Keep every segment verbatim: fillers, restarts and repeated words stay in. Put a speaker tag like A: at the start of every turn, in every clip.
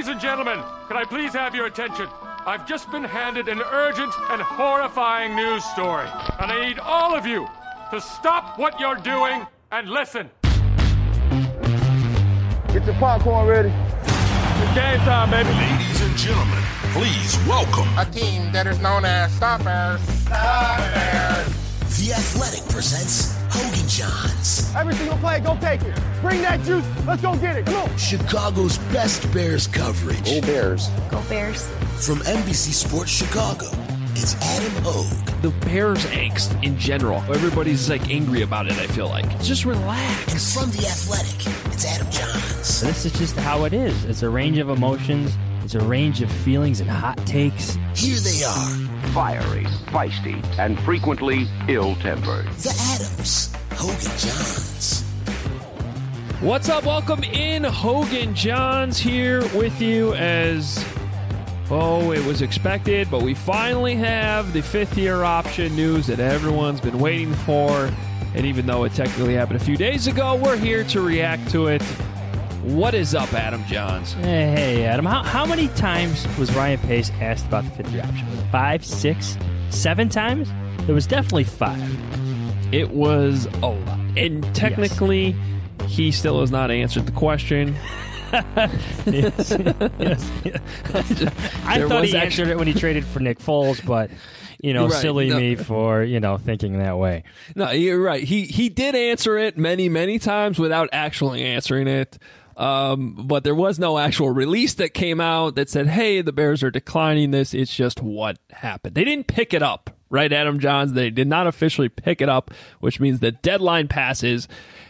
A: Ladies and gentlemen, can I please have your attention? I've just been handed an urgent and horrifying news story, and I need all of you to stop what you're doing and listen.
B: Get your popcorn ready.
A: It's game time, baby.
C: Ladies and gentlemen, please welcome
B: a team that is known as Stop Bears. Stop Bears.
D: The Athletic presents Hogan Johns.
B: Every single play, go take it. Bring that juice. Let's go get it. Come on.
D: Chicago's best Bears coverage.
B: Go Bears.
E: Go Bears.
D: From N B C Sports Chicago, it's Adam Hogue.
F: The Bears angst in general. Everybody's like angry about it, I feel like. Just relax.
D: And from The Athletic, it's Adam Johns.
G: This is just how it is. It's a range of emotions. It's a range of feelings and hot takes.
D: Here they are.
H: Fiery, feisty, and frequently ill-tempered.
D: The Adams. Hogan Johns.
F: What's up? Welcome in. Hogan Johns here with you as, oh, it was expected, but we finally have the fifth-year option news that everyone's been waiting for. And even though it technically happened a few days ago, we're here to react to it. What is up, Adam Johns?
G: Hey, hey Adam. How, how many times was Ryan Pace asked about the fifth-year option? Was it five, six, seven times? It was definitely five.
F: It was a lot. And technically, yes. He still has not answered the question.
G: yes, yes, yes. I
F: There
G: thought he
F: actually...
G: answered it when he traded for Nick Foles, but, you know,
F: right.
G: silly
F: no.
G: me for, you know, thinking that way.
F: No, you're right. He, he did answer it many, many times without actually answering it. Um, but there was no actual release that came out that said, hey, the Bears are declining this. It's just what happened. They didn't pick it up, right, Adam Johns? They did not officially pick it up, which means the deadline passes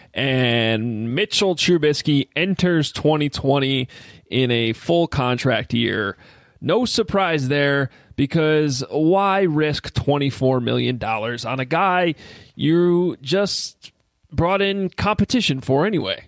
F: and Mitchell Trubisky enters twenty twenty in a full contract year. No surprise there, because why risk twenty-four million dollars on a guy you just brought in competition for anyway?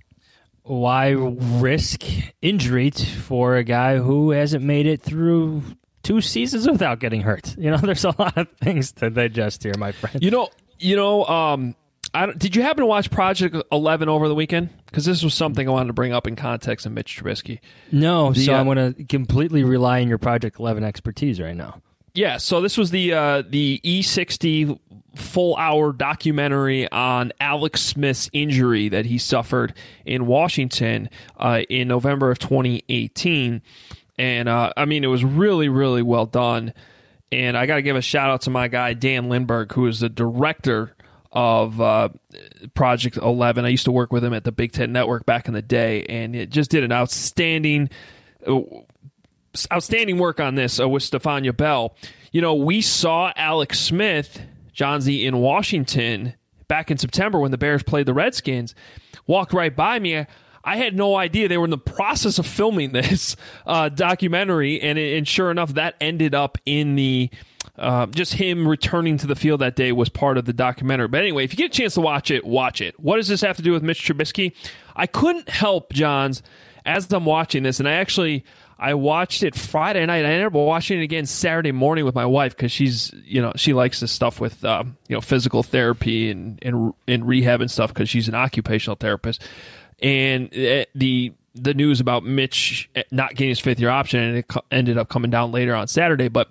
G: Why risk injury for a guy who hasn't made it through two seasons without getting hurt? You know, there's a lot of things to digest here, my friend.
F: You know, you know. Um, I don't, did you happen to watch Project eleven over the weekend? Because this was something I wanted to bring up in context of Mitch Trubisky.
G: No,
F: the,
G: so
F: uh,
G: I'm going to completely rely on your Project eleven expertise right now.
F: Yeah, so this was the uh, the E sixty full-hour documentary on Alex Smith's injury that he suffered in Washington uh, in November of twenty eighteen. And, uh, I mean, it was really, really well done. And I got to give a shout-out to my guy, Dan Lindberg, who is the director of uh, Project eleven. I used to work with him at the Big Ten Network back in the day, and it just did an outstanding uh, outstanding work on this uh, with Stefania Bell. You know, we saw Alex Smith, Johnsy, in Washington back in September when the Bears played the Redskins. Walked right by me. I had no idea they were in the process of filming this uh, documentary, and, and sure enough, that ended up in the uh, just him returning to the field that day was part of the documentary. But anyway, if you get a chance to watch it, watch it. What does this have to do with Mitch Trubisky? I couldn't help, Johns, as I'm watching this, and I actually I watched it Friday night. I ended up watching it again Saturday morning with my wife because she's, you know, she likes this stuff with, um, you know, physical therapy and, and, and rehab and stuff because she's an occupational therapist. And the the news about Mitch not getting his fifth year option, and it ended up coming down later on Saturday. But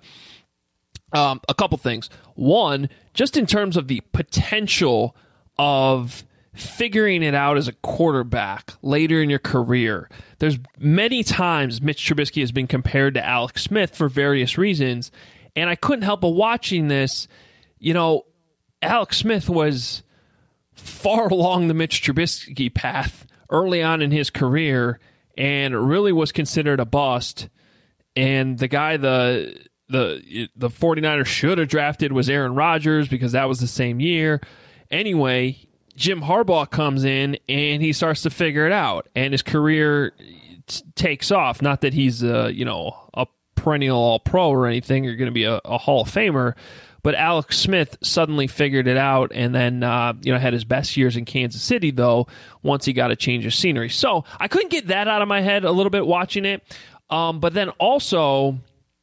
F: um, a couple things. One, just in terms of the potential of figuring it out as a quarterback later in your career, there's many times Mitch Trubisky has been compared to Alex Smith for various reasons. And I couldn't help but watching this. You know, Alex Smith was far along the Mitch Trubisky path early on in his career and really was considered a bust. And the guy the the the 49ers should have drafted was Aaron Rodgers because that was the same year. Anyway, Jim Harbaugh comes in and he starts to figure it out, and his career t- takes off. Not that he's a, you know, a perennial All-Pro or anything, or going to be a, a Hall of Famer, but Alex Smith suddenly figured it out, and then uh, you know had his best years in Kansas City, though, once he got a change of scenery. So I couldn't get that out of my head a little bit watching it. Um, but then also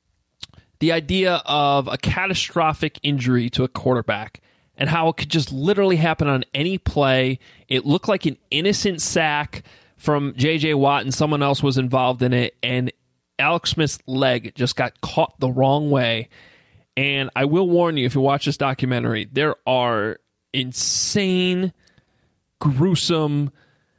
F: the idea of a catastrophic injury to a quarterback and how it could just literally happen on any play. It looked like an innocent sack from J J. Watt and someone else was involved in it, and Alex Smith's leg just got caught the wrong way. And I will warn you, if you watch this documentary, there are insane, gruesome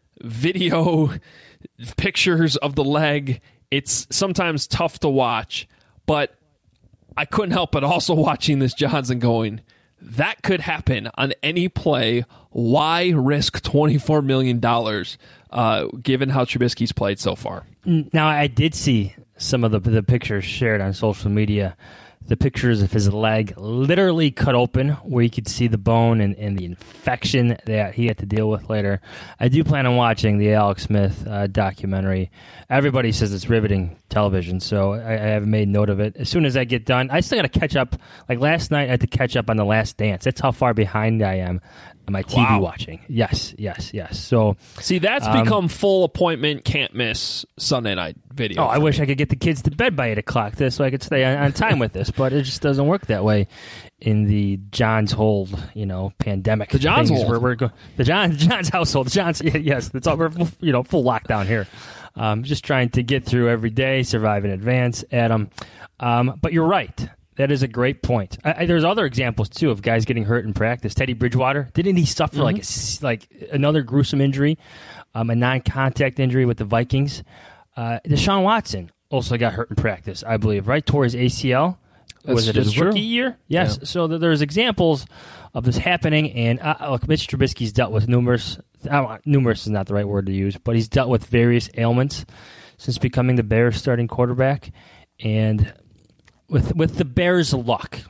F: video pictures of the leg. It's sometimes tough to watch, but I couldn't help but also watching this, Johnson, going, that could happen on any play. Why risk twenty-four million dollars uh, given how Trubisky's played so far?
G: Now, I did see some of the, the pictures shared on social media. The pictures of his leg literally cut open where you could see the bone and, and the infection that he had to deal with later. I do plan on watching the Alex Smith uh, documentary. Everybody says it's riveting television, so I, I have made note of it. As soon as I get done, I still got to catch up. Like last night, I had to catch up on The Last Dance. That's how far behind I am on my T V
F: wow.
G: watching. Yes, yes, yes. So
F: see, that's um, become full appointment, can't miss Sunday night video.
G: Oh, I wish
F: me.
G: I could get the kids to bed by eight o'clock this so I could stay on, on time with this, but it just doesn't work that way in the John's hold, you know, pandemic.
F: The John's hold.
G: Where we're go- the John John's household. The John's yes, it's all we're you know full lockdown here. Um, just trying to get through every day, survive in advance, Adam. Um, but you're right. That is a great point. I, I, there's other examples too of guys getting hurt in practice. Teddy Bridgewater, didn't he suffer mm-hmm. like a, like another gruesome injury, um, a non-contact injury with the Vikings? Uh, Deshaun Watson also got hurt in practice, I believe, right? Tore his A C L.
F: That's,
G: was it his
F: true.
G: rookie year? Yes. Yeah. So th- there's examples of this happening, and uh, look, Mitch Trubisky's dealt with numerous. Uh, numerous is not the right word to use, but he's dealt with various ailments since becoming the Bears' starting quarterback, and with with the Bears' luck,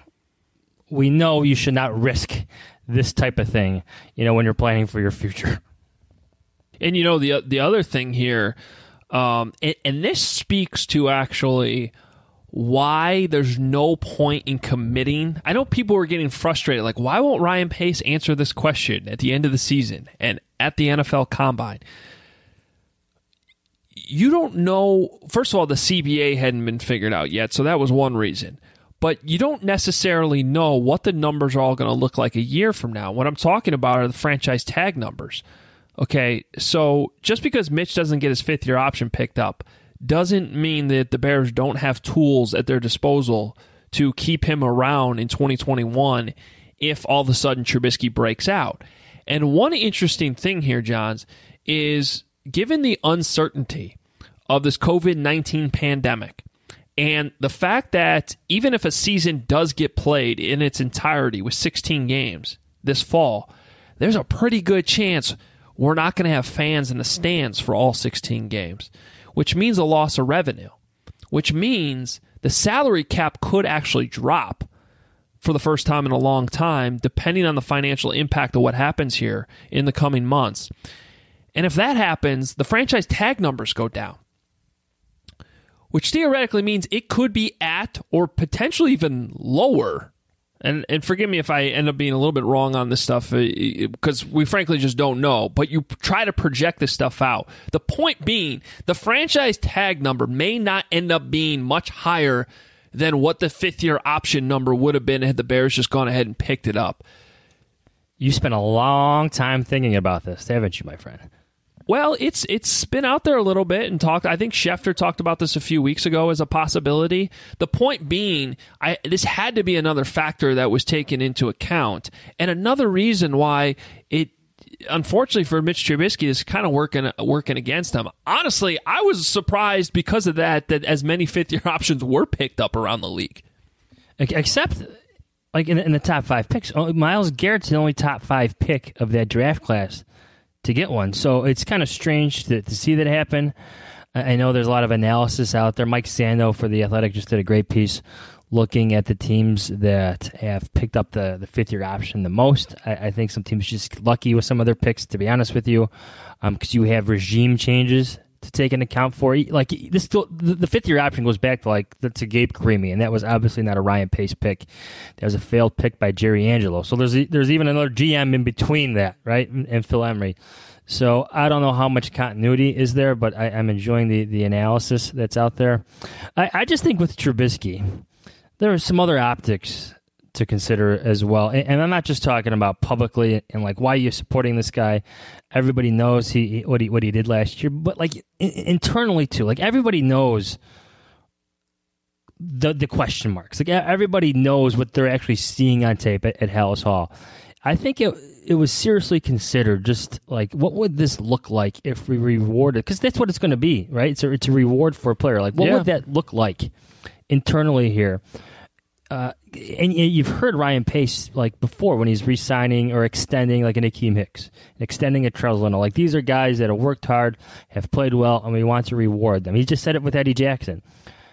G: we know you should not risk this type of thing, you know, when you're planning for your future.
F: And you know the the other thing here. Um, and, and this speaks to actually why there's no point in committing. I know people were getting frustrated, like, why won't Ryan Pace answer this question at the end of the season and at the N F L Combine? You don't know. First of all, the C B A hadn't been figured out yet, so that was one reason. But you don't necessarily know what the numbers are all going to look like a year from now. What I'm talking about are the franchise tag numbers. Okay, so just because Mitch doesn't get his fifth-year option picked up doesn't mean that the Bears don't have tools at their disposal to keep him around in twenty twenty-one if all of a sudden Trubisky breaks out. And one interesting thing here, Johns, is given the uncertainty of this covid nineteen pandemic and the fact that even if a season does get played in its entirety with sixteen games this fall, there's a pretty good chance we're not going to have fans in the stands for all sixteen games, which means a loss of revenue, which means the salary cap could actually drop for the first time in a long time, depending on the financial impact of what happens here in the coming months. And if that happens, the franchise tag numbers go down, which theoretically means it could be at or potentially even lower. And and forgive me if I end up being a little bit wrong on this stuff, because we frankly just don't know. But you try to project this stuff out. The point being, the franchise tag number may not end up being much higher than what the fifth-year option number would have been had the Bears just gone ahead and picked it up.
G: You spent a long time thinking about this, haven't you, my friend?
F: Well, it's it's been out there a little bit and talked. I think Schefter talked about this a few weeks ago as a possibility. The point being, I, this had to be another factor that was taken into account, and another reason why it, unfortunately for Mitch Trubisky, is kind of working working against him. Honestly, I was surprised because of that that as many fifth year options were picked up around the league,
G: except like in, in the top five picks. Myles Garrett's the only top five pick of that draft class to get one. So it's kind of strange to, to see that happen. I know there's a lot of analysis out there. Mike Sando for The Athletic just did a great piece looking at the teams that have picked up the, the fifth-year option the most. I, I think some teams just lucky with some of their picks, to be honest with you, because um, you have regime changes to take into account for. Like this, the, the fifth-year option goes back to like to Gabe Carimi, and that was obviously not a Ryan Pace pick. That was a failed pick by Jerry Angelo. So there's there's even another G M in between that, right? And Phil Emery. So I don't know how much continuity is there, but I, I'm enjoying the, the analysis that's out there. I, I just think with Trubisky, there are some other optics to consider as well. And, and I'm not just talking about publicly and like why you're supporting this guy. Everybody knows he what he what he did last year, but like in, internally too. Like everybody knows the the question marks. Like everybody knows what they're actually seeing on tape at, at Halas Hall. I think it it was seriously considered. Just like what would this look like if we rewarded? Because that's what it's going to be, right? It's a, it's a reward for a player. Like what
F: yeah.
G: would that look like internally here? Uh, and you've heard Ryan Pace like before when he's re-signing or extending like an Akeem Hicks, extending a Trez Leno. Like these are guys that have worked hard, have played well, and we want to reward them. He just said it with Eddie Jackson.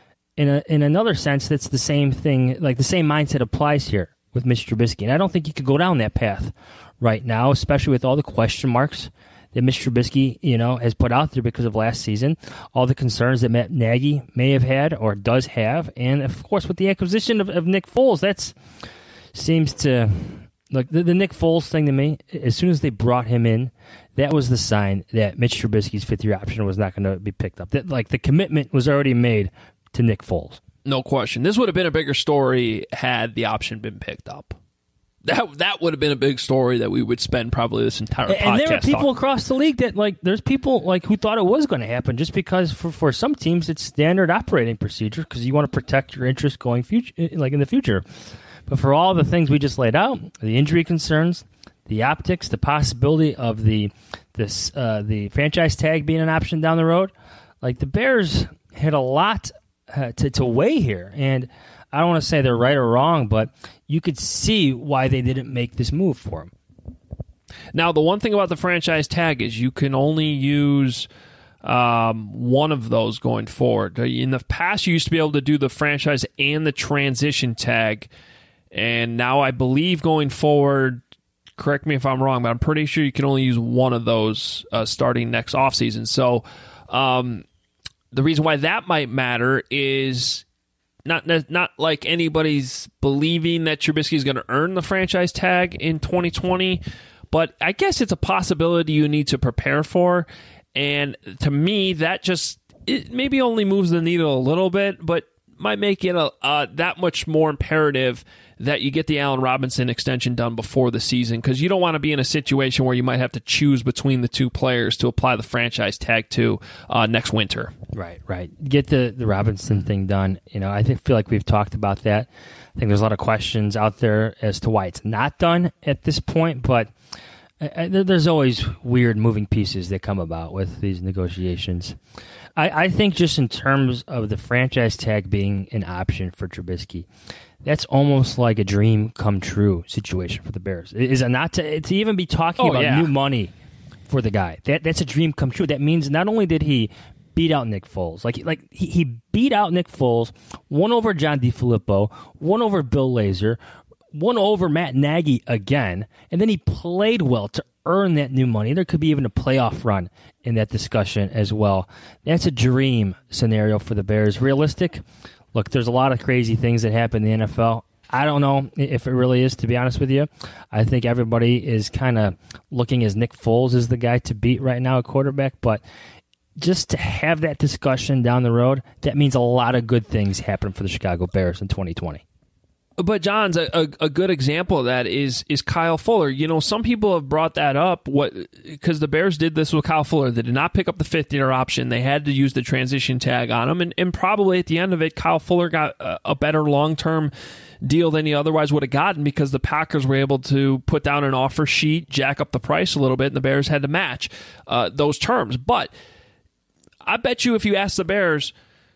G: In a, in another sense, that's the same thing. Like the same mindset applies here with Mitch Trubisky, and I don't think you could go down that path right now, especially with all the question marks that Mitch Trubisky, you know, has put out there because of last season, all the concerns that Matt Nagy may have had or does have, and of course with the acquisition of, of Nick Foles, that's seems to look the, the Nick Foles thing to me. As soon as they brought him in, that was the sign that Mitch Trubisky's fifth-year option was not going to be picked up. That like the commitment was already made to Nick Foles.
F: No question. This would have been a bigger story had the option been picked up. That that would have been a big story that we would spend probably this entire podcast.
G: And there are people
F: talking.
G: across the league that like there's people like who thought it was going to happen just because for, for some teams it's standard operating procedure because you want to protect your interests going future like in the future. But for all the things we just laid out, the injury concerns, the optics, the possibility of the this uh, the franchise tag being an option down the road, like the Bears had a lot uh, to to weigh here, and I don't want to say they're right or wrong, but you could see why they didn't make this move for him.
F: Now, the one thing about the franchise tag is you can only use um, one of those going forward. In the past, you used to be able to do the franchise and the transition tag, and now I believe going forward, correct me if I'm wrong, but I'm pretty sure you can only use one of those uh, starting next offseason. So um, the reason why that might matter is Not not like anybody's believing that Trubisky is going to earn the franchise tag in twenty twenty, but I guess it's a possibility you need to prepare for. And to me, that just it maybe only moves the needle a little bit, but might make it a, uh, that much more imperative that you get the Allen Robinson extension done before the season, because you don't want to be in a situation where you might have to choose between the two players to apply the franchise tag to uh, next winter.
G: Right, right. Get the, the Robinson thing done. You know, I think, feel like we've talked about that. I think there's a lot of questions out there as to why it's not done at this point, but I, I, there's always weird moving pieces that come about with these negotiations. I, I think just in terms of the franchise tag being an option for Trubisky, that's almost like a dream come true situation for the Bears. Is it not to, to even be talking
F: oh,
G: about
F: yeah.
G: new money for the guy? That that's a dream come true. That means not only did he beat out Nick Foles, like like he, he beat out Nick Foles, won over John DeFilippo, won over Bill Lazor, won over Matt Nagy again, and then he played well to earn that new money. There could be even a playoff run in that discussion as well. That's a dream scenario for the Bears. Realistic? Look, there's a lot of crazy things that happen in the N F L. I don't know if it really is, to be honest with you. I think everybody is kind of looking as Nick Foles is the guy to beat right now at quarterback, but just to have that discussion down the road, that means a lot of good things happen for the Chicago Bears in twenty twenty.
F: But John's a, a, a good example of that is is Kyle Fuller. You know, some people have brought that up what because the Bears did this with Kyle Fuller. They did not pick up the fifth-year option. They had to use the transition tag on him, and, and probably at the end of it, Kyle Fuller got a, a better long-term deal than he otherwise would have gotten because the Packers were able to put down an offer sheet, jack up the price a little bit, and the Bears had to match uh, those terms. But I bet you if you ask the Bears,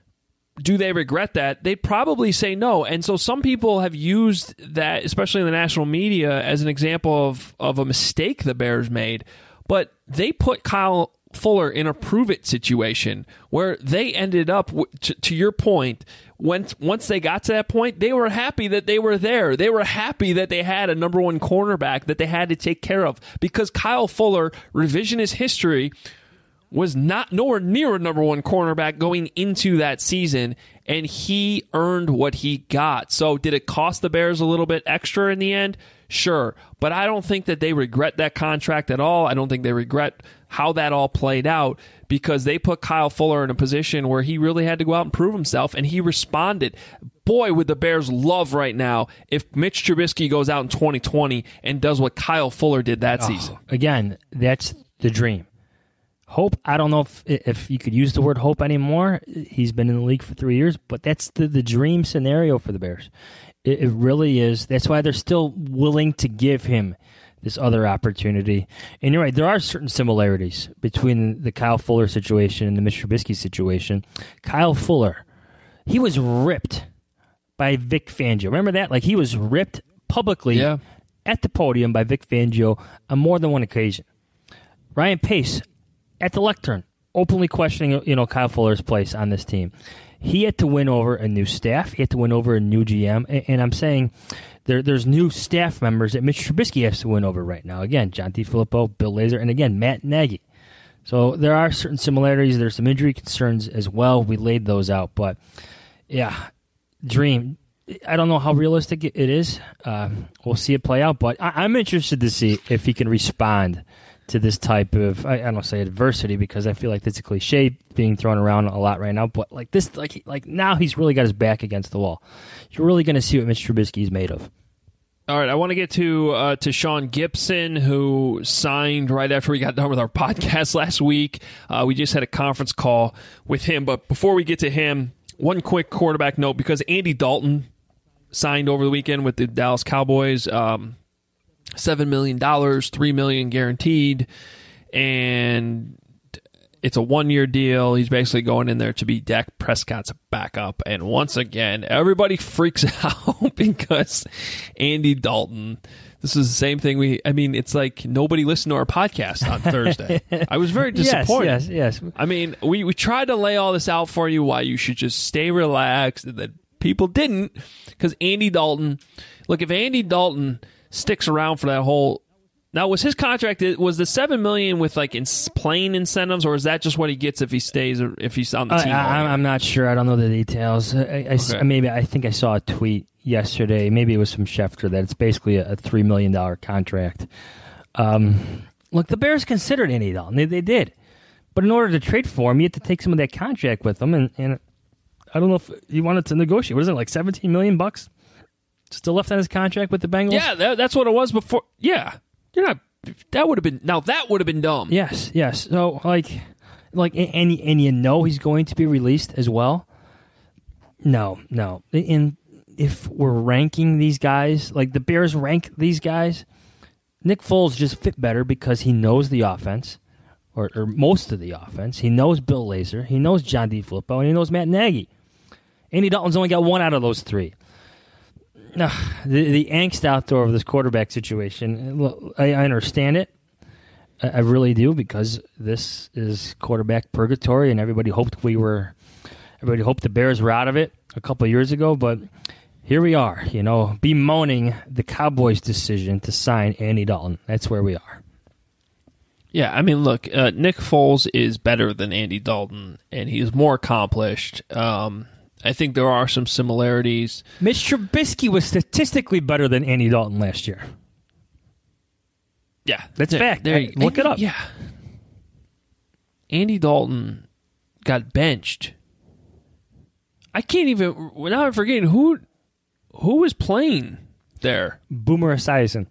F: do they regret that? They'd probably say no. And so some people have used that, especially in the national media, as an example of, of a mistake the Bears made. But they put Kyle Fuller in a prove-it situation where they ended up, to, to your point, once, once they got to that point, they were happy that they were there. They were happy that they had a number one cornerback that they had to take care of because Kyle Fuller, revisionist history, was not nowhere near a number one cornerback going into that season, and he earned what he got. So did it cost the Bears a little bit extra in the end? Sure. But I don't think that they regret that contract at all. I don't think they regret how that all played out because they put Kyle Fuller in a position where he really had to go out and prove himself, and he responded. boy, would the Bears love right now if Mitch Trubisky goes out in twenty twenty and does what Kyle Fuller did that
G: oh,
F: season.
G: Again, that's the dream. Hope, I don't know if if you could use the word hope anymore. He's been in the league for three years, but that's the, the dream scenario for the Bears. It, it really is. That's why they're still willing to give him this other opportunity. And you're right, there are certain similarities between the Kyle Fuller situation and the Mitch Trubisky situation. Kyle Fuller, he was ripped by Vic Fangio. Remember that? Like, he was ripped publicly
F: yeah.
G: at the podium by Vic Fangio on more than one occasion. Ryan Pace, at the lectern, openly questioning, you know, Kyle Fuller's place on this team. He had to win over a new staff. He had to win over a new G M. And, and I'm saying there, there's new staff members that Mitch Trubisky has to win over right now. Again, John DeFilippo, Bill Lazor, and again, Matt Nagy. So there are certain similarities. There's some injury concerns as well. We laid those out. But, yeah, dream. I don't know how realistic it is. Uh, we'll see it play out. But I, I'm interested to see if he can respond to this type of, I, I don't say adversity because I feel like that's a cliche being thrown around a lot right now, but like this, like like now he's really got his back against the wall. You're really going to see what Mitch Trubisky is made of.
F: All right, I want to get to uh, to Sean Gibson, who signed right after we got done with our podcast last week. Uh, we just had a conference call with him, but before we get to him, one quick quarterback note, because Andy Dalton signed over the weekend with the Dallas Cowboys. Um, Seven million dollars, three million guaranteed, and it's a one-year deal. He's basically going in there to be Dak Prescott's backup. And once again, everybody freaks out because Andy Dalton. This is the same thing we. I mean, it's like nobody listened to our podcast on Thursday. I was very disappointed.
G: Yes, yes, yes.
F: I mean, we we tried to lay all this out for you why you should just stay relaxed, and that people didn't, because Andy Dalton. Look, if Andy Dalton sticks around for that whole. Now, was his contract, was the seven million dollars with like in playing incentives, or is that just what he gets if he stays or if he's on the team?
G: I, I'm not sure. I don't know the details. I, I, okay. Maybe I think I saw a tweet yesterday. Maybe it was from Schefter that it's basically a, a three million dollars contract. Um, look, the Bears considered Andy Dalton. They, they did. But in order to trade for him, you had to take some of that contract with him. And, and I don't know if he wanted to negotiate. What is it, like seventeen million dollars bucks? Still left on his contract with the Bengals?
F: Yeah, that, that's what it was before. Yeah. You're not. That would have been. Now, that would have been dumb.
G: Yes, yes. So, like, like, and, and you know he's going to be released as well? No, no. And if we're ranking these guys, like the Bears rank these guys, Nick Foles just fit better because he knows the offense, or, or most of the offense. He knows Bill Lazor. He knows John DeFilippo, and he knows Matt Nagy. Andy Dalton's only got one out of those three. No, the, the angst out there of this quarterback situation, I, I understand it. I, I really do, because this is quarterback purgatory, and everybody hoped we were, everybody hoped the Bears were out of it a couple of years ago, but here we are, you know, bemoaning the Cowboys' decision to sign Andy Dalton. That's where we are.
F: Yeah, I mean, look, uh, Nick Foles is better than Andy Dalton, and he's more accomplished. Um I think there are some similarities.
G: Mitch Trubisky was statistically better than Andy Dalton last year.
F: Yeah.
G: That's
F: there,
G: fact.
F: There,
G: I, look
F: Andy,
G: it up.
F: Yeah. Andy Dalton got benched. I can't even, now I'm forgetting, who who was playing there?
G: Boomer Esiason.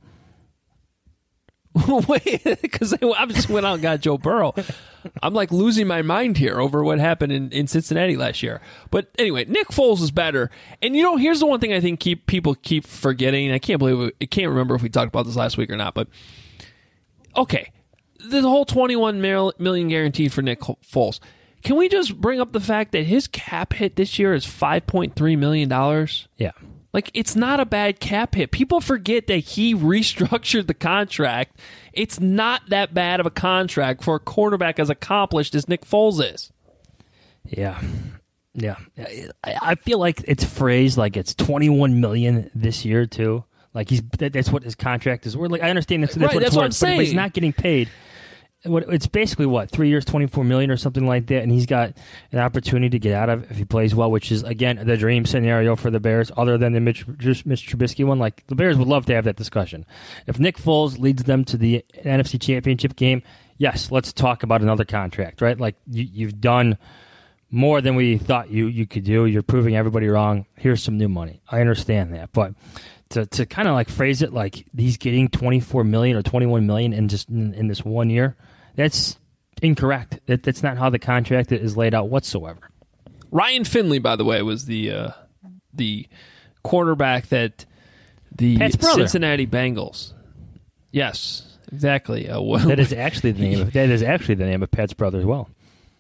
F: Wait, because they obviously went out and got Joe Burrow. I'm like losing my mind here over what happened in, in Cincinnati last year. But anyway, Nick Foles is better. And you know, here's the one thing I think keep people keep forgetting. I can't believe it, I can't remember if we talked about this last week or not. But okay, the whole twenty-one million guaranteed for Nick Foles. Can we just bring up the fact that his cap hit this year is five point three million dollars?
G: Yeah.
F: Like, it's not a bad cap hit. People forget that he restructured the contract. It's not that bad of a contract for a quarterback as accomplished as Nick Foles is.
G: Yeah. Yeah. I feel like it's phrased like it's twenty-one million dollars this year, too. Like, he's that's what his contract is worth. Like, I understand that's, that's
F: right,
G: what
F: that's
G: it's
F: what
G: worth,
F: I'm saying.
G: But he's not getting paid. It's basically, what, three years, twenty-four million dollars or something like that, and he's got an opportunity to get out of it if he plays well, which is, again, the dream scenario for the Bears, other than the Mitch, Mitch Trubisky one. Like, the Bears would love to have that discussion. If Nick Foles leads them to the N F C Championship game, yes, let's talk about another contract, right? Like, you, you've done more than we thought you, you could do. You're proving everybody wrong. Here's some new money. I understand that. But to to kind of like phrase it like he's getting twenty-four million dollars or twenty-one million dollars in just in, in this one year, that's incorrect. That, that's not how the contract is laid out whatsoever.
F: Ryan Finley, by the way, was the uh, the quarterback that the Cincinnati Bengals. Yes, exactly. Uh, well,
G: that is actually the name. Of, that is actually the name of Pat's brother as well.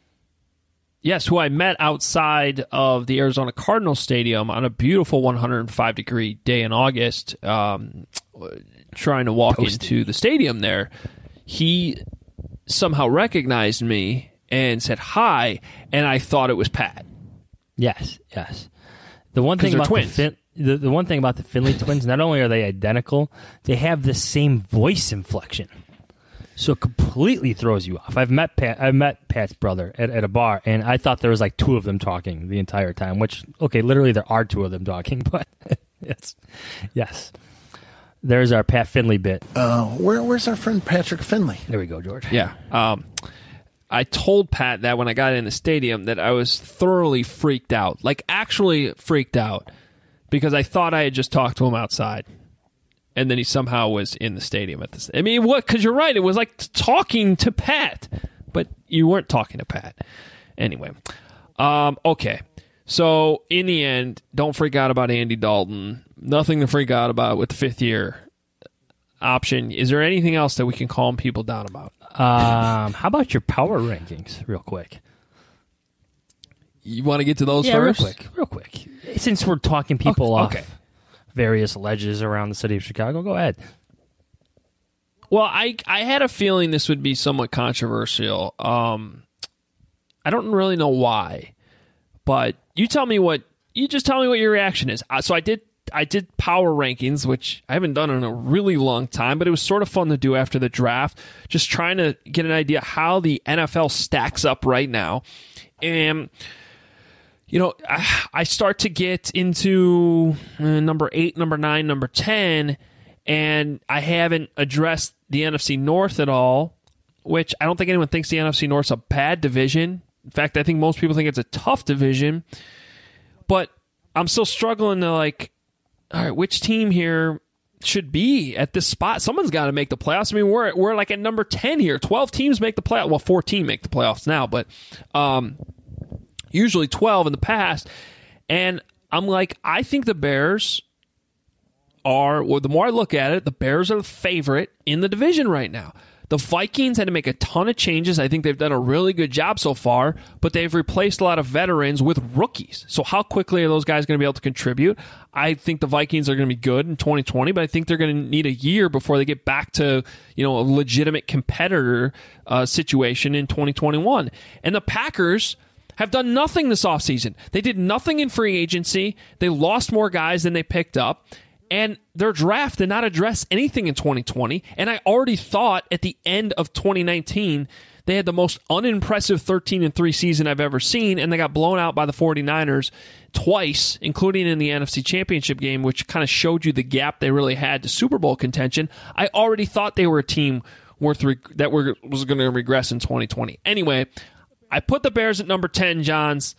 F: Yes, who I met outside of the Arizona Cardinals Stadium on a beautiful one hundred five degree day in August, um, trying to walk Toasty. into the stadium there. He somehow recognized me and said hi, and I thought it was Pat.
G: Yes, yes. The one thing about
F: twins.
G: the, fin- the the one thing about the Finley twins, not only are they identical, they have the same voice inflection. So it completely throws you off. I've met Pat, I've met Pat's brother at, at a bar, and I thought there was like two of them talking the entire time, which, okay, literally there are two of them talking, but yes. Yes. There's our Pat Finley bit.
B: Uh, where, where's our friend Patrick Finley?
G: There we go, George.
F: Yeah. Um, I told Pat that when I got in the stadium that I was thoroughly freaked out, like actually freaked out, because I thought I had just talked to him outside. And then he somehow was in the stadium at this. I mean, what? Because you're right. It was like talking to Pat, but you weren't talking to Pat. Anyway, um, okay. So in the end, don't freak out about Andy Dalton. Nothing to freak out about with the fifth year option. Is there anything else that we can calm people down about?
G: Um, how about your power rankings, real quick?
F: You want to get to those
G: yeah,
F: first?
G: real quick, real quick. Since we're talking people
F: okay,
G: off.
F: Okay.
G: various ledges around the city of Chicago. Go ahead.
F: Well, I I had a feeling this would be somewhat controversial. Um, I don't really know why, but you tell me what you just tell me what your reaction is. Uh, so I did I did power rankings, which I haven't done in a really long time, but it was sort of fun to do after the draft. Just trying to get an idea how the N F L stacks up right now, and. You know, I start to get into number eight, number nine, number ten, and I haven't addressed the N F C North at all, which I don't think anyone thinks the N F C North's a bad division. In fact, I think most people think it's a tough division. But I'm still struggling to, like, all right, which team here should be at this spot? Someone's got to make the playoffs. I mean, we're we're like at number ten here. twelve teams make the playoffs. Well, fourteen make the playoffs now, but... um. Usually twelve in the past. And I'm like, I think the Bears are, well, the more I look at it, the Bears are the favorite in the division right now. The Vikings had to make a ton of changes. I think they've done a really good job so far, but they've replaced a lot of veterans with rookies. So how quickly are those guys going to be able to contribute? I think the Vikings are going to be good in twenty twenty, but I think they're going to need a year before they get back to, you know, a legitimate competitor uh, situation in twenty twenty-one. And the Packers have done nothing this offseason. They did nothing in free agency. They lost more guys than they picked up. And their draft did not address anything in twenty twenty. And I already thought at the end of twenty nineteen, they had the most unimpressive thirteen and three season I've ever seen. And they got blown out by the 49ers twice, including in the N F C Championship game, which kind of showed you the gap they really had to Super Bowl contention. I already thought they were a team worth reg- that were, was going to regress in twenty twenty. Anyway, I put the Bears at number ten, Johns.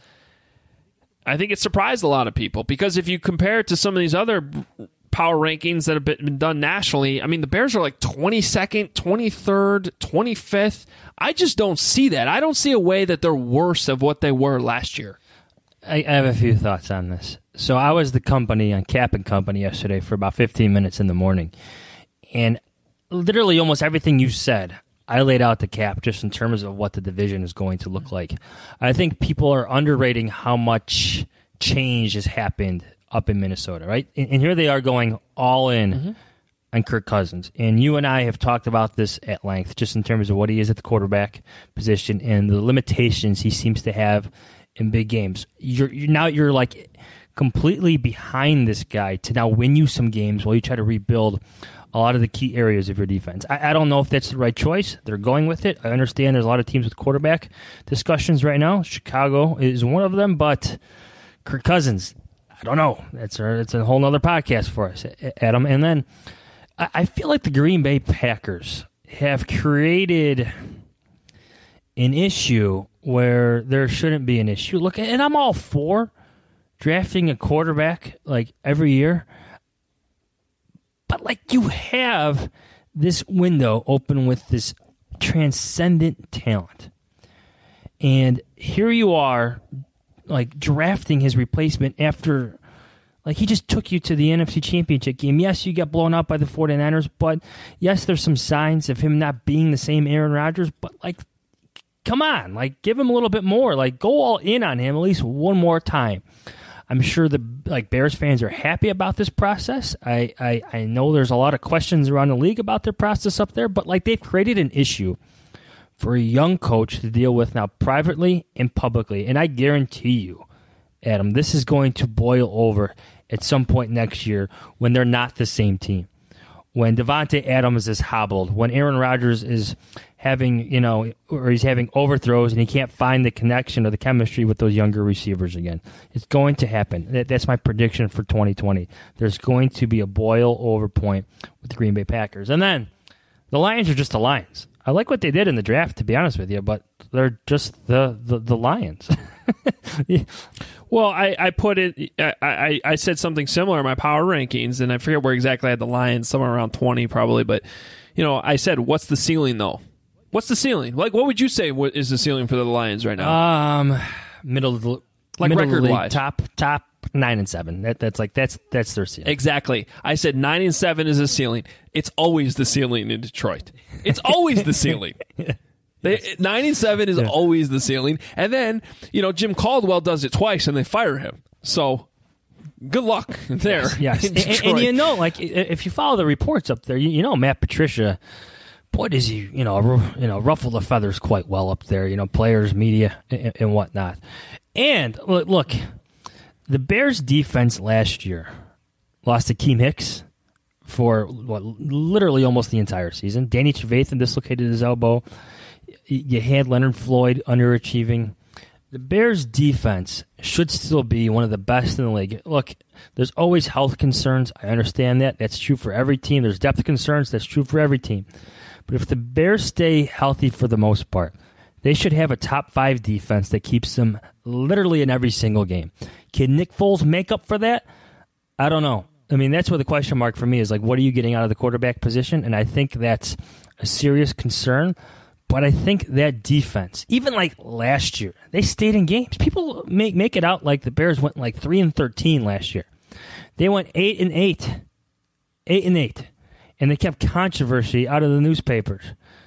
F: I think it surprised a lot of people because if you compare it to some of these other power rankings that have been done nationally, I mean, the Bears are like twenty-second, twenty-third, twenty-fifth. I just don't see that. I don't see a way that they're worse of what they were last year.
G: I, I have a few thoughts on this. So I was the company on Cap and Company yesterday for about fifteen minutes in the morning. And literally almost everything you said, I laid out the Cap just in terms of what the division is going to look like. I think people are underrating how much change has happened up in Minnesota, right? And, and here they are going all in mm-hmm. on Kirk Cousins. And you and I have talked about this at length just in terms of what he is at the quarterback position and the limitations he seems to have in big games. You're, you're now you're like completely behind this guy to now win you some games while you try to rebuild a lot of the key areas of your defense. I, I don't know if that's the right choice. They're going with it. I understand there's a lot of teams with quarterback discussions right now. Chicago is one of them, but Kirk Cousins, I don't know. That's a, it's a whole other podcast for us, Adam. And then I, I feel like the Green Bay Packers have created an issue where there shouldn't be an issue. Look, and I'm all for drafting a quarterback like every year, but like you have this window open with this transcendent talent, and here you are, like drafting his replacement after. Like, he just took you to the N F C Championship game. Yes, you got blown out by the 49ers, but yes, there's some signs of him not being the same Aaron Rodgers, but, like, come on. Like, give him a little bit more. Like, go all in on him at least one more time. I'm sure the, like, Bears fans are happy about this process. I, I, I know there's a lot of questions around the league about their process up there, but, like, they've created an issue for a young coach to deal with now privately and publicly, and I guarantee you, Adam, this is going to boil over at some point next year when they're not the same team. When Devontae Adams is hobbled, when Aaron Rodgers is having, you know, or he's having overthrows and he can't find the connection or the chemistry with those younger receivers again. It's going to happen. That, that's my prediction for twenty twenty. There's going to be a boil over point with the Green Bay Packers. And then the Lions are just the Lions. I like what they did in the draft, to be honest with you, but they're just the, the, the Lions.
F: yeah. Well, I, I put it, I, I, I said something similar in my power rankings, and I forget where exactly I had the Lions, somewhere around twenty probably, but, you know, I said, what's the ceiling, though? What's the ceiling? Like, what would you say what is the ceiling for the Lions right now?
G: Um, middle of the,
F: like record-wise.
G: Top, top nine and seven. That, that's like, that's, that's their ceiling.
F: Exactly. I said nine and seven is a ceiling. It's always the ceiling in Detroit. It's always the ceiling. They, nine and seven is yeah. always the ceiling, and then you know Jim Caldwell does it twice, and they fire him. So, good luck there.
G: Yes, yes. And, and you know, like if you follow the reports up there, you, you know Matt Patricia. Boy, does he you know you know ruffle the feathers quite well up there. You know, players, media, and, and whatnot. And look, the Bears' defense last year lost to Akeem Hicks for what literally almost the entire season. Danny Trevathan dislocated his elbow. You had Leonard Floyd underachieving. The Bears' defense should still be one of the best in the league. Look, there's always health concerns. I understand that. That's true for every team. There's depth concerns. That's true for every team. But if the Bears stay healthy for the most part, they should have a top five defense that keeps them literally in every single game. Can Nick Foles make up for that? I don't know. I mean, that's where the question mark for me is, like, what are you getting out of the quarterback position? And I think that's a serious concern. But I think that defense, even like last year, they stayed in games. People make make it out like the Bears went like three and thirteen last year. They went eight and eight, eight and eight, and they kept controversy out of the newspapers.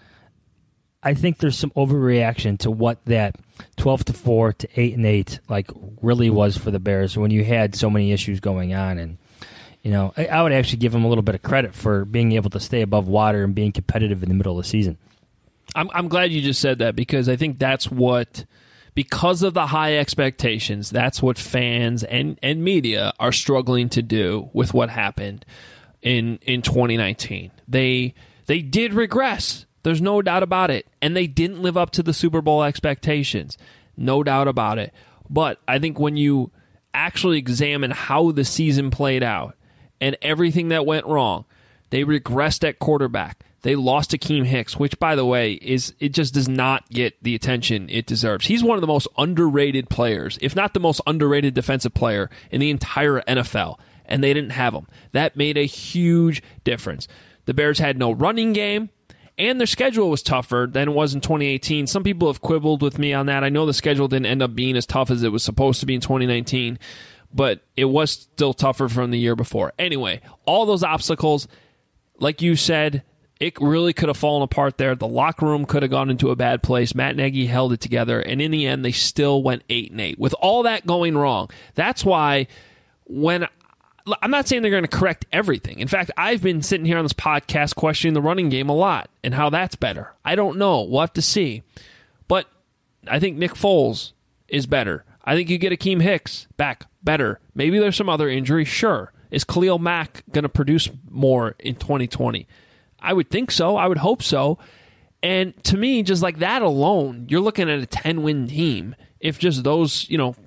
G: I think there's some overreaction to what that twelve to four to eight and eight like really was for the Bears when you had so many issues going on. And you know, I, I would actually give them a little bit of credit for being able to stay above water and being competitive in the middle of the season.
F: I'm I'm glad you just said that, because I think that's what, because of the high expectations, that's what fans and, and media are struggling to do with what happened in in twenty nineteen. They they did regress. There's no doubt about it. And they didn't live up to the Super Bowl expectations. No doubt about it. But I think when you actually examine how the season played out and everything that went wrong, they regressed at quarterback. They lost to Akeem Hicks, which, by the way, is it just does not get the attention it deserves. He's one of the most underrated players, if not the most underrated defensive player in the entire N F L, and they didn't have him. That made a huge difference. The Bears had no running game, and their schedule was tougher than it was in twenty eighteen. Some people have quibbled with me on that. I know the schedule didn't end up being as tough as it was supposed to be in twenty nineteen, but it was still tougher from the year before. Anyway, all those obstacles, like you said, it really could have fallen apart there. The locker room could have gone into a bad place. Matt Nagy held it together, and in the end, they still went eight and eight. With all that going wrong, that's why when I'm not saying they're going to correct everything. In fact, I've been sitting here on this podcast questioning the running game a lot and how that's better. I don't know. We'll have to see. But I think Nick Foles is better. I think you get Akeem Hicks back better. Maybe there's some other injury. Sure. Is Khalil Mack going to produce more in twenty twenty? I would think so. I would hope so. And to me, just like that alone, you're looking at a ten-win team if just those, you know,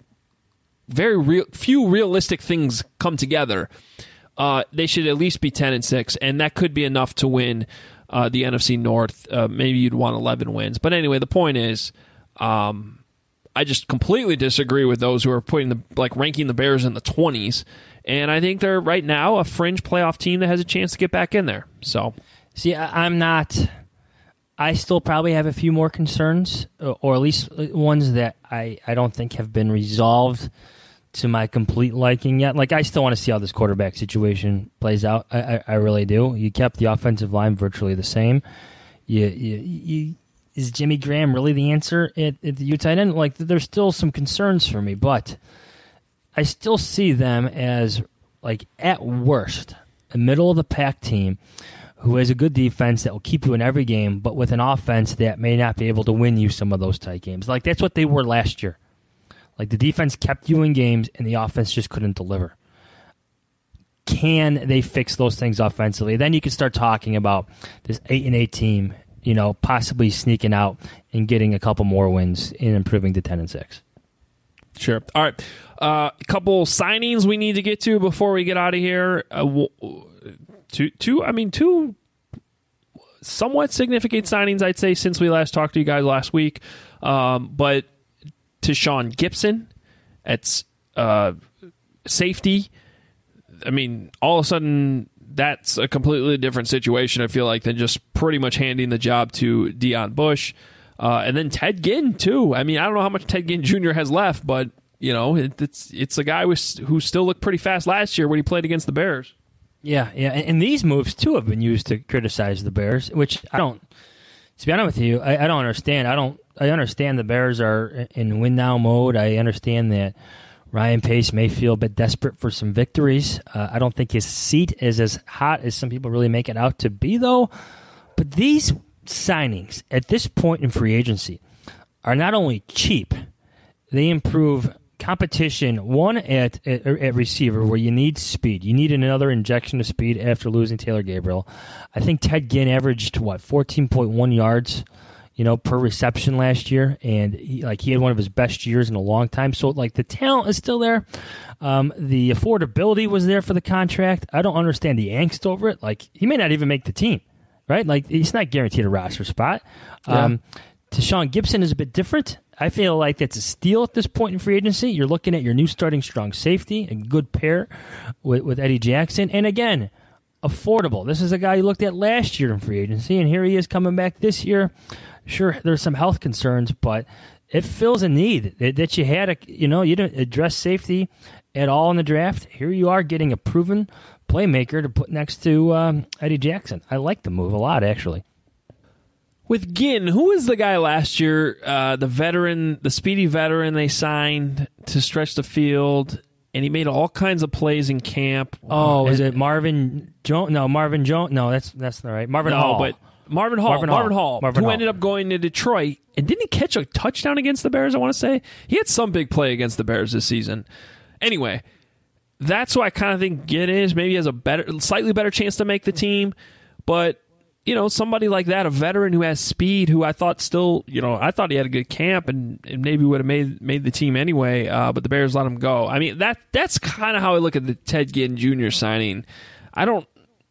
F: very real, few realistic things come together. Uh, they should at least be ten and six, and that could be enough to win uh, the N F C North. Uh, maybe you'd want eleven wins. But anyway, the point is, um, I just completely disagree with those who are putting the like ranking the Bears in the twenties. And I think they're right now a fringe playoff team that has a chance to get back in there. So,
G: see, I, I'm not. I still probably have a few more concerns, or at least ones that I, I don't think have been resolved to my complete liking yet. Like, I still want to see how this quarterback situation plays out. I, I, I really do. You kept the offensive line virtually the same. You, you, you, is Jimmy Graham really the answer at, at the Utah end? Like, there's still some concerns for me, but I still see them as, like, at worst, a middle-of-the-pack team who has a good defense that will keep you in every game, but with an offense that may not be able to win you some of those tight games. Like, that's what they were last year. Like, the defense kept you in games, and the offense just couldn't deliver. Can they fix those things offensively? Then you can start talking about this eight and eight team, you know, possibly sneaking out and getting a couple more wins and improving to ten and six.
F: Sure. All right. Uh, a couple signings we need to get to before we get out of here. Uh, w- two, two, I mean, two somewhat significant signings, I'd say, since we last talked to you guys last week. Um, but Tashaun Gipson at uh, safety, I mean, all of a sudden, that's a completely different situation, I feel like, than just pretty much handing the job to Deion Bush. Uh, and then Ted Ginn, too. I mean, I don't know how much Ted Ginn Junior has left, but, you know, it, it's it's a guy who, who still looked pretty fast last year when he played against the Bears.
G: Yeah, yeah. And, and these moves, too, have been used to criticize the Bears, which I don't, to be honest with you, I, I don't understand. I don't, I understand the Bears are in win-now mode. I understand that Ryan Pace may feel a bit desperate for some victories. Uh, I don't think his seat is as hot as some people really make it out to be, though. But these signings at this point in free agency are not only cheap, they improve competition, one at, at, at receiver where you need speed. You need another injection of speed after losing Taylor Gabriel. I think Ted Ginn averaged, what, fourteen point one yards you know, per reception last year, and he, like he had one of his best years in a long time. So, like, the talent is still there. Um, the affordability was there for the contract. I don't understand the angst over it. Like, he may not even make the team, right? Like, he's not guaranteed a roster spot. Yeah. Um, Tashaun Gipson is a bit different. I feel like that's a steal at this point in free agency. You're looking at your new starting strong safety, a good pair with, with Eddie Jackson. And again, affordable. This is a guy you looked at last year in free agency, and here he is coming back this year. Sure, there's some health concerns, but it fills a need that, that you had. A, you know, you didn't address safety at all in the draft. Here you are getting a proven playmaker to put next to um, Eddie Jackson. I like the move a lot, actually.
F: With Ginn, who was the guy last year, uh, the veteran, the speedy veteran they signed to stretch the field, and he made all kinds of plays in camp.
G: Oh, is it Marvin Jones? No, Marvin Jones. No, that's that's not right. Marvin
F: no,
G: Hall.
F: but Marvin Hall.
G: Marvin,
F: Marvin
G: Hall.
F: Hall,
G: Marvin
F: who
G: Hall.
F: ended up going to Detroit, and didn't he catch a touchdown against the Bears, I want to say? He had some big play against the Bears this season. Anyway, that's why I kind of think Ginn is. Maybe has a better, slightly better chance to make the team, but you know, somebody like that, a veteran who has speed, who I thought still, you know, I thought he had a good camp and, and maybe would have made made the team anyway, uh, but the Bears let him go. I mean, that that's kind of how I look at the Ted Ginn Junior signing. I don't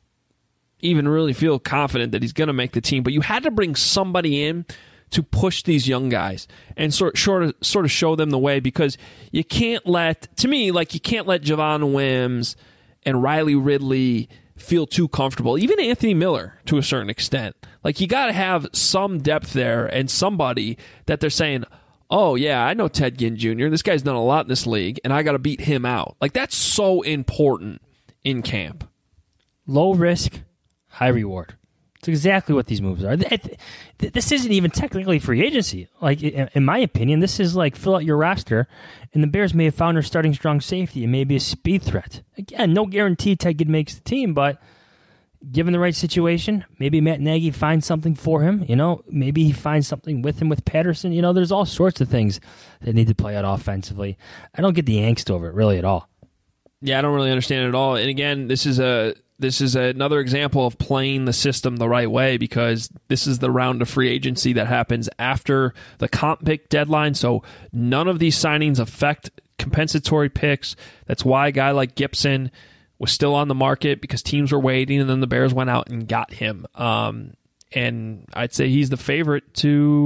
F: even really feel confident that he's going to make the team, but you had to bring somebody in to push these young guys and sort, sort of sort of show them the way, because you can't let, to me, like you can't let Javon Wims and Riley Ridley feel too comfortable. Even Anthony Miller, to a certain extent. Like, you got to have some depth there and somebody that they're saying, oh, yeah, I know Ted Ginn Junior This guy's done a lot in this league, and I got to beat him out. Like, that's so important in camp.
G: Low risk, high reward. It's exactly what these moves are. This isn't even technically free agency. Like, in my opinion, this is like fill out your roster, and the Bears may have found their starting strong safety and maybe a speed threat. Again, no guarantee Ted Ginn makes the team, but given the right situation, maybe Matt Nagy finds something for him. You know, maybe he finds something with him with Patterson. You know, there's all sorts of things that need to play out offensively. I don't get the angst over it really at all.
F: Yeah, I don't really understand it at all. And again, this is a this is another example of playing the system the right way, because this is the round of free agency that happens after the comp pick deadline. So none of these signings affect compensatory picks. That's why a guy like Gipson was still on the market, because teams were waiting, and then the Bears went out and got him. Um, and I'd say he's the favorite to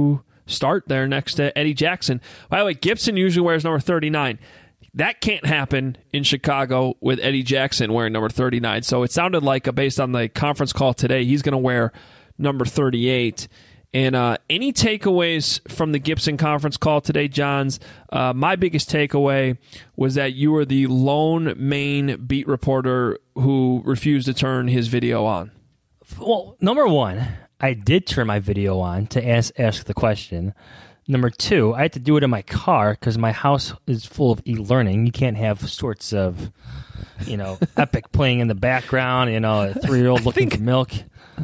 F: start there next to Eddie Jackson. By the way, Gibson usually wears number thirty-nine. That can't happen in Chicago with Eddie Jackson wearing number thirty-nine. So it sounded like, uh, based on the conference call today, he's going to wear number thirty-eight. And uh, any takeaways from the Gibson conference call today, Johns? Uh, my biggest takeaway was that you were the lone main beat reporter who refused to turn his video on.
G: Well, number one, I did turn my video on to ask ask the question. Number two, I had to do it in my car because my house is full of e-learning. You can't have sorts of, you know, Epic playing in the background, you know, a three-year-old looking
F: think-
G: for milk.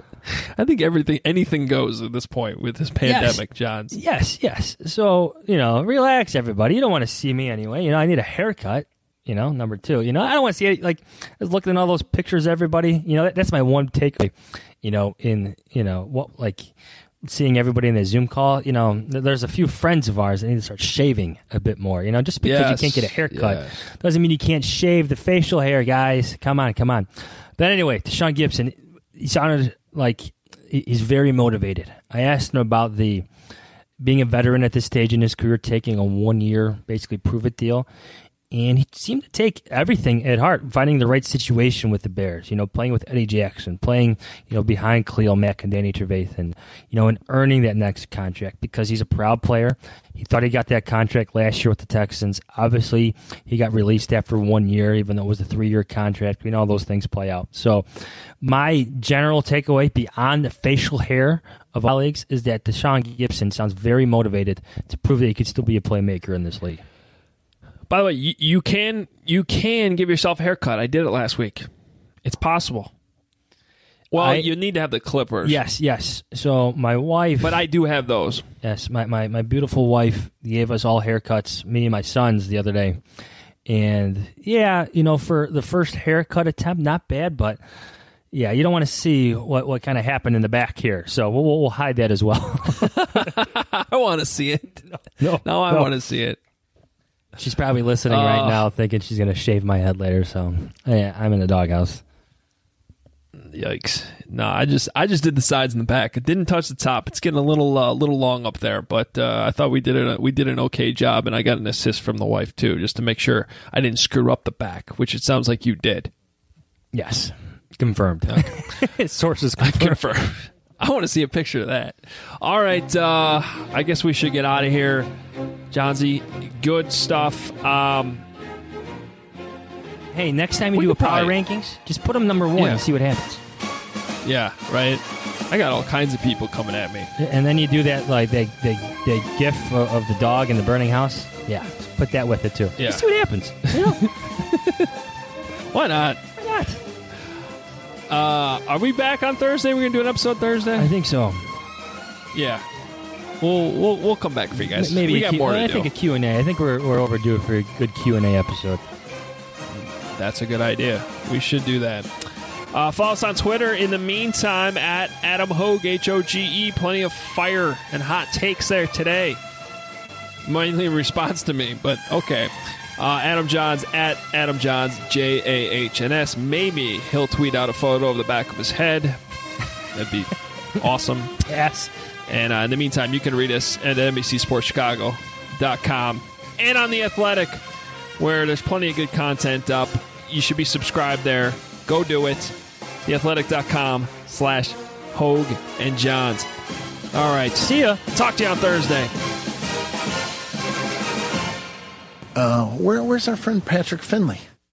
F: I think everything, anything goes at this point with this pandemic,
G: yes.
F: Johns.
G: Yes, yes. So, you know, relax, everybody. You don't want to see me anyway. You know, I need a haircut, you know, number two. You know, I don't want to see it. Like, I was looking at all those pictures, everybody. You know, that, that's my one takeaway, you know, in, you know, what, like, seeing everybody in the Zoom call. You know, there's a few friends of ours that need to start shaving a bit more. You know, just because
F: yes.
G: you can't get a haircut
F: yes.
G: doesn't mean you can't shave the facial hair, guys. Come on, come on. But anyway, Deshaun Gibson, he sounded like he's very motivated. I asked him about the being a veteran at this stage in his career, taking a one-year, basically prove-it deal. And he seemed to take everything at heart, finding the right situation with the Bears, you know, playing with Eddie Jackson, playing, you know, behind Khalil Mack and Danny Trevathan, you know, and earning that next contract because he's a proud player. He thought he got that contract last year with the Texans. Obviously, he got released after one year, even though it was a three-year contract. We know all those things play out. So my general takeaway beyond the facial hair of our leagues is that Deshaun Gibson sounds very motivated to prove that he could still be a playmaker in this league.
F: By the way, you, you can you can give yourself a haircut. I did it last week. It's possible. Well,
G: I,
F: you need to have the clippers.
G: Yes, yes. So my wife...
F: But I do have those.
G: Yes, my, my, my beautiful wife gave us all haircuts, me and my sons, the other day. And, yeah, you know, for the first haircut attempt, not bad, but, yeah, you don't want to see what, what kind of happened in the back here. So we'll, we'll hide that as well.
F: I want to see it.
G: No,
F: no I
G: no.
F: want to see it.
G: She's probably listening
F: uh,
G: right now thinking she's going to shave my head later, so yeah, I'm in the doghouse.
F: Yikes. No, I just I just did the sides and the back. It didn't touch the top. It's getting a little uh, little long up there, but uh, I thought we did it we did an okay job, and I got an assist from the wife too, just to make sure I didn't screw up the back, which it sounds like you did.
G: Yes. Confirmed. Okay. Sources confirmed.
F: Confirmed. I want to see a picture of that. All right, uh, I guess we should get out of here. Johnsy, good stuff. Um,
G: hey, next time you
F: we
G: do a
F: could
G: power
F: probably-
G: rankings, just put them number one
F: Yeah.
G: and see what happens.
F: yeah, right. I got all kinds of people coming at me.
G: And then you do that, like, the, the, the gif of, of the dog in the burning house. Yeah, just put that with it, too.
F: Yeah.
G: Just see what happens. You know?
F: Why not?
G: Why not?
F: Uh, are we back on Thursday? We're gonna do an episode Thursday.
G: I think so.
F: Yeah, we'll we'll we'll come back for you guys.
G: Maybe
F: we
G: a
F: got
G: Q-
F: more to
G: I
F: do.
G: think a Q and A. I think we're we're overdue for a good Q and A episode.
F: That's a good idea. We should do that. Uh, follow us on Twitter. In the meantime, at Adam Hogue, H O G E. Plenty of fire and hot takes there today. Mainly in response to me, but okay. Uh, Adam Johns, at Adam Johns, J A H N S. Maybe he'll tweet out a photo of the back of his head. That'd be awesome.
G: Yes.
F: And uh, in the meantime, you can read us at N B C Sports Chicago dot com and on The Athletic, where there's plenty of good content up. You should be subscribed there. Go do it. The Athletic dot com slash Hogue and Johns. All right.
G: See ya.
F: Talk to you on Thursday.
B: Uh, where, where's our friend Patrick Finley?